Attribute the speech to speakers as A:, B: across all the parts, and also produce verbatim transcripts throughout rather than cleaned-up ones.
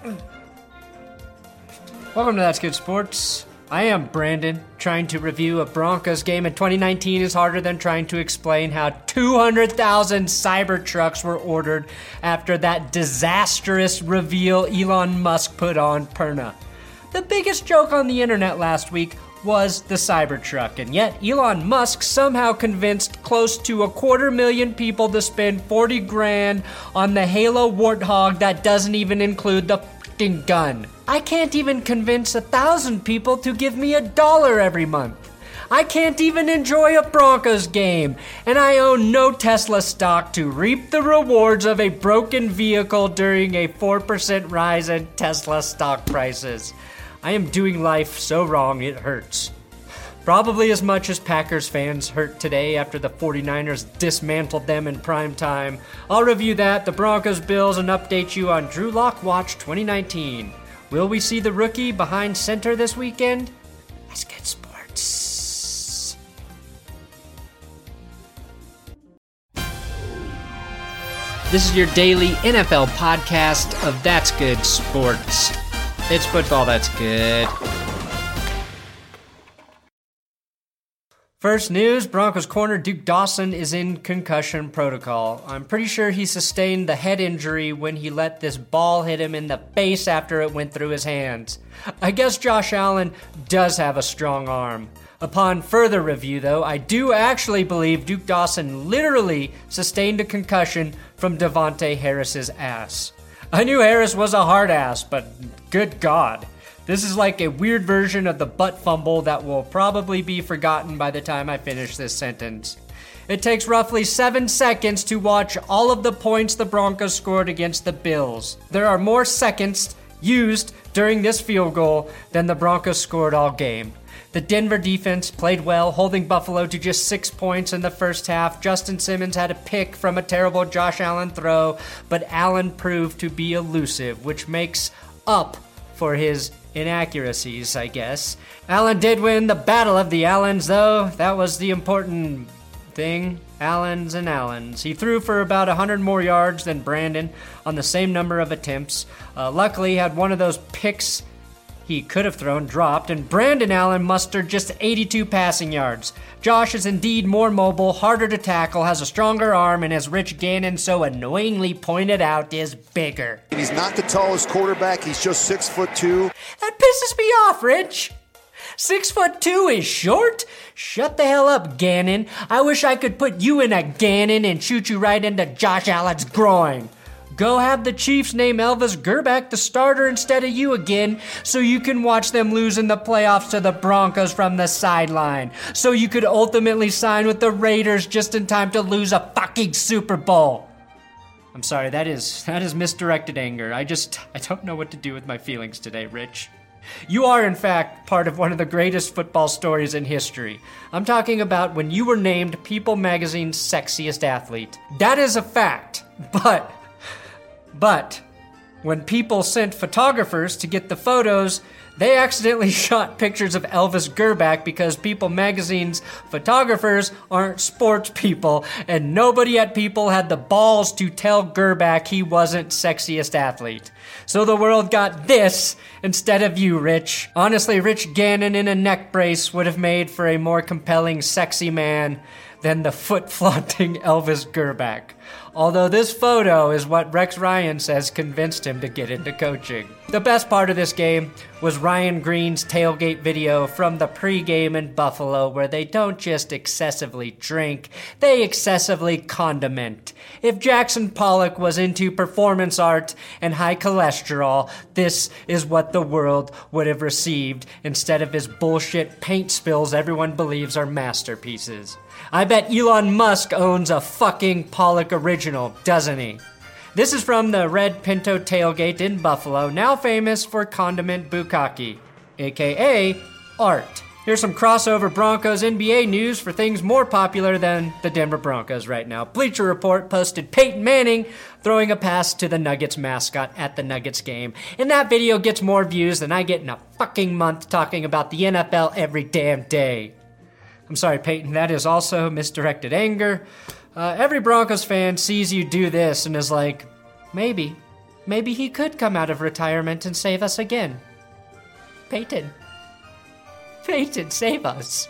A: Welcome to That's Good Sports. I am Brandon. Trying to review a Broncos game in twenty nineteen is harder than trying to explain how two hundred thousand Cybertrucks were ordered after that disastrous reveal Elon Musk put on Perna. The biggest joke on the internet last week was the Cybertruck, and yet Elon Musk somehow convinced close to a quarter million people to spend forty grand on the Halo Warthog that doesn't even include the f***ing gun. I can't even convince a thousand people to give me a dollar every month. I can't even enjoy a Broncos game, and I own no Tesla stock to reap the rewards of a broken vehicle during a four percent rise in Tesla stock prices. I am doing life so wrong it hurts. Probably as much as Packers fans hurt today after the 49ers dismantled them in prime time. I'll review that, the Broncos, Bills, and update you on Drew Lock Watch twenty nineteen. Will we see the rookie behind center this weekend? That's Good Sports. This is your daily N F L podcast of That's Good Sports. It's football that's good. First news, Broncos corner Duke Dawson is in concussion protocol. I'm pretty sure he sustained the head injury when he let this ball hit him in the face after it went through his hands. I guess Josh Allen does have a strong arm. Upon further review, though, I do actually believe Duke Dawson literally sustained a concussion from Devontae Harris's ass. I knew Harris was a hard ass, but good God. This is like a weird version of the butt fumble that will probably be forgotten by the time I finish this sentence. It takes roughly seven seconds to watch all of the points the Broncos scored against the Bills. There are more seconds used during this field goal than the Broncos scored all game. The Denver defense played well, holding Buffalo to just six points in the first half. Justin Simmons had a pick from a terrible Josh Allen throw, but Allen proved to be elusive, which makes up for his inaccuracies, I guess. Allen did win the Battle of the Allens, though. That was the important thing. Allens and Allens. He threw for about one hundred more yards than Brandon on the same number of attempts. Uh, luckily, he had one of those picks he could have thrown dropped, and Brandon Allen mustered just eighty-two passing yards. Josh is indeed more mobile, harder to tackle, has a stronger arm, and as Rich Gannon so annoyingly pointed out, is bigger.
B: He's not the tallest quarterback, he's just six foot two.
A: That pisses me off, Rich. Six foot two is short? Shut the hell up, Gannon. I wish I could put you in a Gannon and shoot you right into Josh Allen's groin. Go have the Chiefs name Elvis Grbac the starter instead of you again, so you can watch them lose in the playoffs to the Broncos from the sideline. So you could ultimately sign with the Raiders just in time to lose a fucking Super Bowl. I'm sorry, that is that is misdirected anger. I just, I don't know what to do with my feelings today, Rich. You are, in fact, part of one of the greatest football stories in history. I'm talking about when you were named People Magazine's sexiest athlete. That is a fact, but... But when people sent photographers to get the photos, they accidentally shot pictures of Elvis Grbac because People Magazine's photographers aren't sports people, and nobody at People had the balls to tell Grbac he wasn't sexiest athlete. So the world got this instead of you, Rich. Honestly, Rich Gannon in a neck brace would have made for a more compelling sexy man than the foot-flaunting Elvis Grbac. Although this photo is what Rex Ryan says convinced him to get into coaching. The best part of this game was Ryan Green's tailgate video from the pregame in Buffalo, where they don't just excessively drink, they excessively condiment. If Jackson Pollock was into performance art and high cholesterol, this is what the world would have received instead of his bullshit paint spills everyone believes are masterpieces. I bet Elon Musk owns a fucking Pollock original, doesn't he? This is from the Red Pinto Tailgate in Buffalo, now famous for condiment bukkake, aka art. Here's some crossover Broncos N B A news for things more popular than the Denver Broncos right now. Bleacher Report posted Peyton Manning throwing a pass to the Nuggets mascot at the Nuggets game. And that video gets more views than I get in a fucking month talking about the N F L every damn day. I'm sorry, Peyton, that is also misdirected anger. Uh, every Broncos fan sees you do this and is like, maybe, maybe he could come out of retirement and save us again. Peyton. Peyton, save us.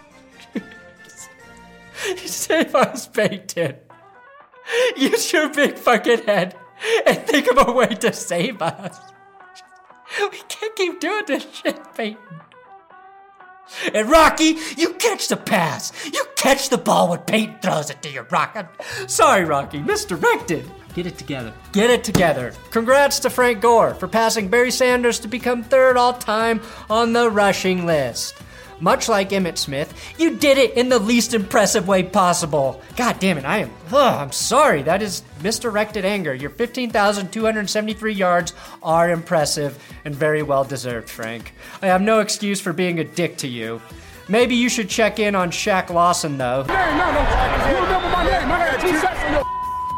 A: Save us, Peyton. Use your big fucking head and think of a way to save us. We can't keep doing this shit, Peyton. And Rocky, you catch the pass. You catch the ball when Peyton throws it to you, Rocky. Sorry, Rocky, misdirected. Get it together. Get it together. Congrats to Frank Gore for passing Barry Sanders to become third all-time on the rushing list. Much like Emmitt Smith, you did it in the least impressive way possible. God damn it, I am, ugh, I'm sorry, that is misdirected anger. Your fifteen thousand two hundred seventy-three yards are impressive and very well deserved, Frank. I have no excuse for being a dick to you. Maybe you should check in on Shaq Lawson, though.
C: Hey, no, no, you remember my name. I got two sacks on your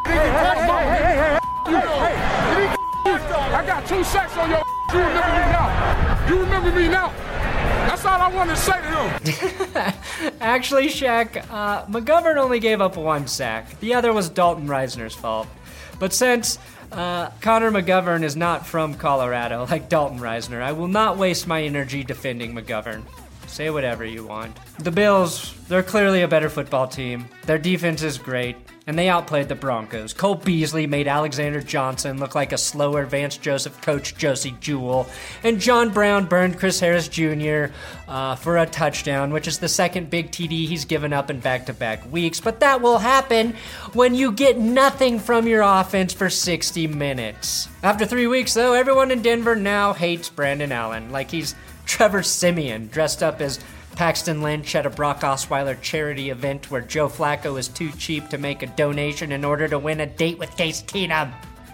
C: I got two sacks on your You remember me now. You remember me now. That's all I wanted to say to him.
A: Actually, Shaq, uh, McGovern only gave up one sack. The other was Dalton Reisner's fault. But since uh, Connor McGovern is not from Colorado, like Dalton Reisner, I will not waste my energy defending McGovern. Say whatever you want. The Bills, they're clearly a better football team. Their defense is great, and they outplayed the Broncos. Cole Beasley made Alexander Johnson look like a slower Vance Joseph coach Josie Jewell, and John Brown burned Chris Harris Junior Uh, for a touchdown, which is the second big T D he's given up in back-to-back weeks. But that will happen when you get nothing from your offense for sixty minutes. After three weeks, though, everyone in Denver now hates Brandon Allen, like he's Trevor Siemian, dressed up as Paxton Lynch at a Brock Osweiler charity event where Joe Flacco is too cheap to make a donation in order to win a date with Case Keenum.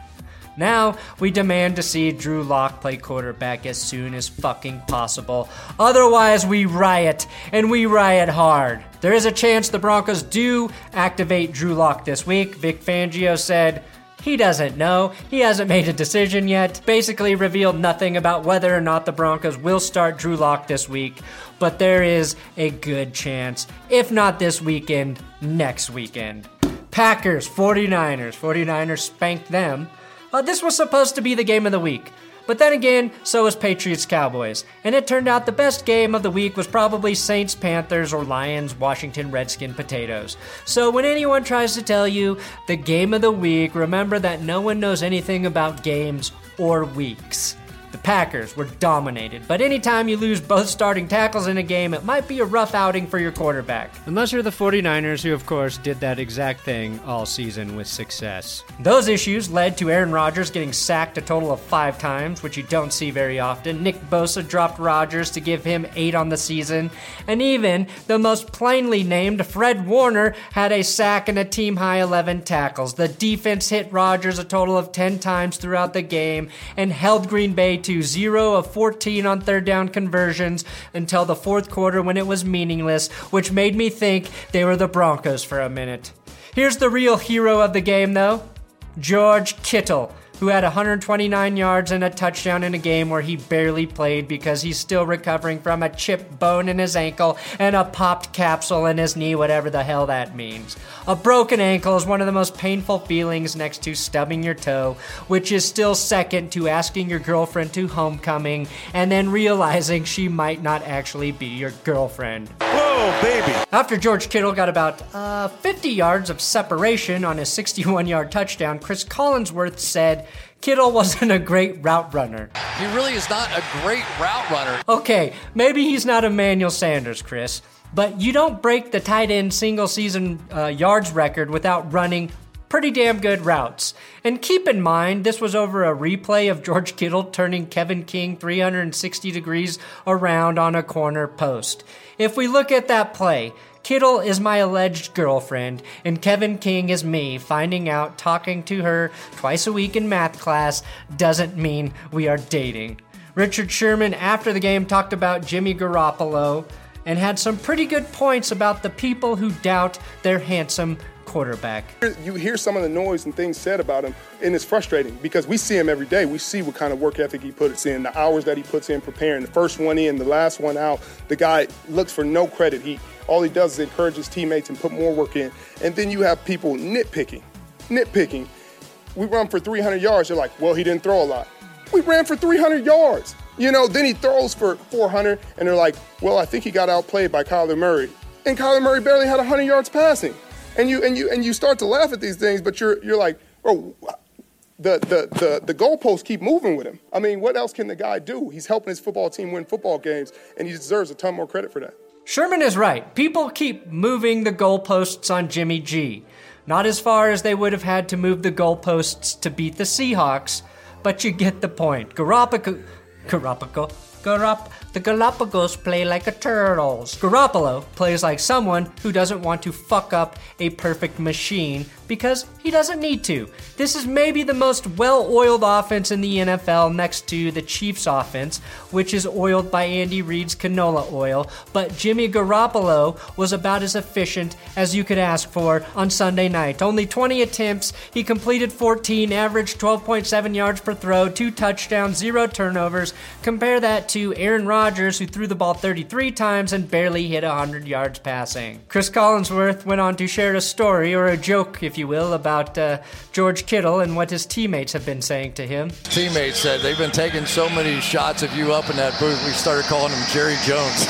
A: Now, we demand to see Drew Lock play quarterback as soon as fucking possible. Otherwise, we riot, and we riot hard. There is a chance the Broncos do activate Drew Lock this week. Vic Fangio said he doesn't know. He hasn't made a decision yet. Basically revealed nothing about whether or not the Broncos will start Drew Lock this week. But there is a good chance, if not this weekend, next weekend. Packers, 49ers. 49ers spanked them. Uh, this was supposed to be the game of the week. But then again, so was Patriots-Cowboys. And it turned out the best game of the week was probably Saints-Panthers or Lions-Washington Redskin Potatoes. So when anyone tries to tell you the game of the week, remember that no one knows anything about games or weeks. The Packers were dominated, but anytime you lose both starting tackles in a game, it might be a rough outing for your quarterback. Unless you're the 49ers, who of course did that exact thing all season with success. Those issues led to Aaron Rodgers getting sacked a total of five times, which you don't see very often. Nick Bosa dropped Rodgers to give him eight on the season, and even the most plainly named Fred Warner had a sack and a team-high eleven tackles. The defense hit Rodgers a total of ten times throughout the game and held Green Bay to zero of fourteen on third down conversions until the fourth quarter when it was meaningless, which made me think they were the Broncos for a minute. Here's the real hero of the game, though. George Kittle, who had one hundred twenty-nine yards and a touchdown in a game where he barely played because he's still recovering from a chipped bone in his ankle and a popped capsule in his knee, whatever the hell that means. A broken ankle is one of the most painful feelings next to stubbing your toe, which is still second to asking your girlfriend to homecoming and then realizing she might not actually be your girlfriend.
B: Whoa, baby.
A: After George Kittle got about uh, fifty yards of separation on his sixty-one-yard touchdown, Chris Collinsworth said Kittle wasn't a great route runner.
D: He really is not a great route runner.
A: Okay, maybe he's not Emmanuel Sanders, Chris, but you don't break the tight end single-season uh, yards record without running pretty damn good routes. And keep in mind, this was over a replay of George Kittle turning Kevin King three hundred sixty degrees around on a corner post. If we look at that play, Kittle is my alleged girlfriend, and Kevin King is me. Finding out talking to her twice a week in math class doesn't mean we are dating. Richard Sherman, after the game, talked about Jimmy Garoppolo and had some pretty good points about the people who doubt their handsome quarterback.
C: You hear some of the noise and things said about him, and it's frustrating because we see him every day. We see what kind of work ethic he puts in, the hours that he puts in preparing, the first one in, the last one out. The guy looks for no credit. He all he does is encourage his teammates and put more work in. And then you have people nitpicking, nitpicking. we run for three hundred yards. You're like, well, he didn't throw a lot. We ran for three hundred yards. You know, then he throws for four hundred, and they're like, well, I think he got outplayed by Kyler Murray. And Kyler Murray barely had one hundred yards passing. And you and you and you start to laugh at these things, but you're you're like, oh, the the the the goalposts keep moving with him. I mean, what else can the guy do? He's helping his football team win football games, and he deserves a ton more credit for that.
A: Sherman is right. People keep moving the goalposts on Jimmy G. Not as far as they would have had to move the goalposts to beat the Seahawks, but you get the point. Garoppolo, Garoppolo, Garop, the Galapagos play like a turtles. Garoppolo plays like someone who doesn't want to fuck up a perfect machine because he doesn't need to. This is maybe the most well-oiled offense in the N F L next to the Chiefs offense, which is oiled by Andy Reid's canola oil, but Jimmy Garoppolo was about as efficient as you could ask for on Sunday night. Only twenty attempts, he completed fourteen, averaged twelve point seven yards per throw, two touchdowns, zero turnovers. Compare that to Aaron Rodgers, who threw the ball thirty-three times and barely hit one hundred yards passing. Chris Collinsworth went on to share a story, or a joke, if you will, about uh, George Kittle and what his teammates have been saying to him.
D: Teammates said they've been taking so many shots of you up in that booth, we started calling him Jerry Jones.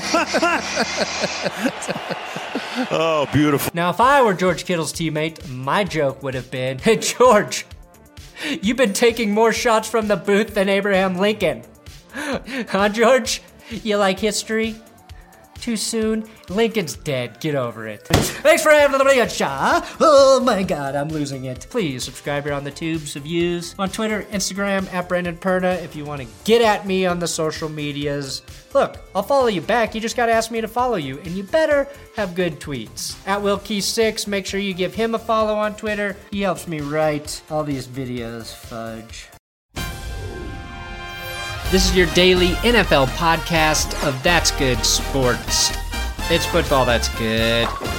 E: Oh, beautiful.
A: Now, if I were George Kittle's teammate, my joke would have been, hey, George, you've been taking more shots from the booth than Abraham Lincoln. Huh, George? You like history? Too soon? Lincoln's dead. Get over it. Thanks for having the shot. Oh my God, I'm losing it. Please subscribe here on the tubes of views. On Twitter, Instagram, at Brendan Perna. If you want to get at me on the social medias, look, I'll follow you back. You just got to ask me to follow you, and you better have good tweets. At Wilkie six, make sure you give him a follow on Twitter. He helps me write all these videos, fudge. This is your daily N F L podcast of That's Good Sports. It's football that's good.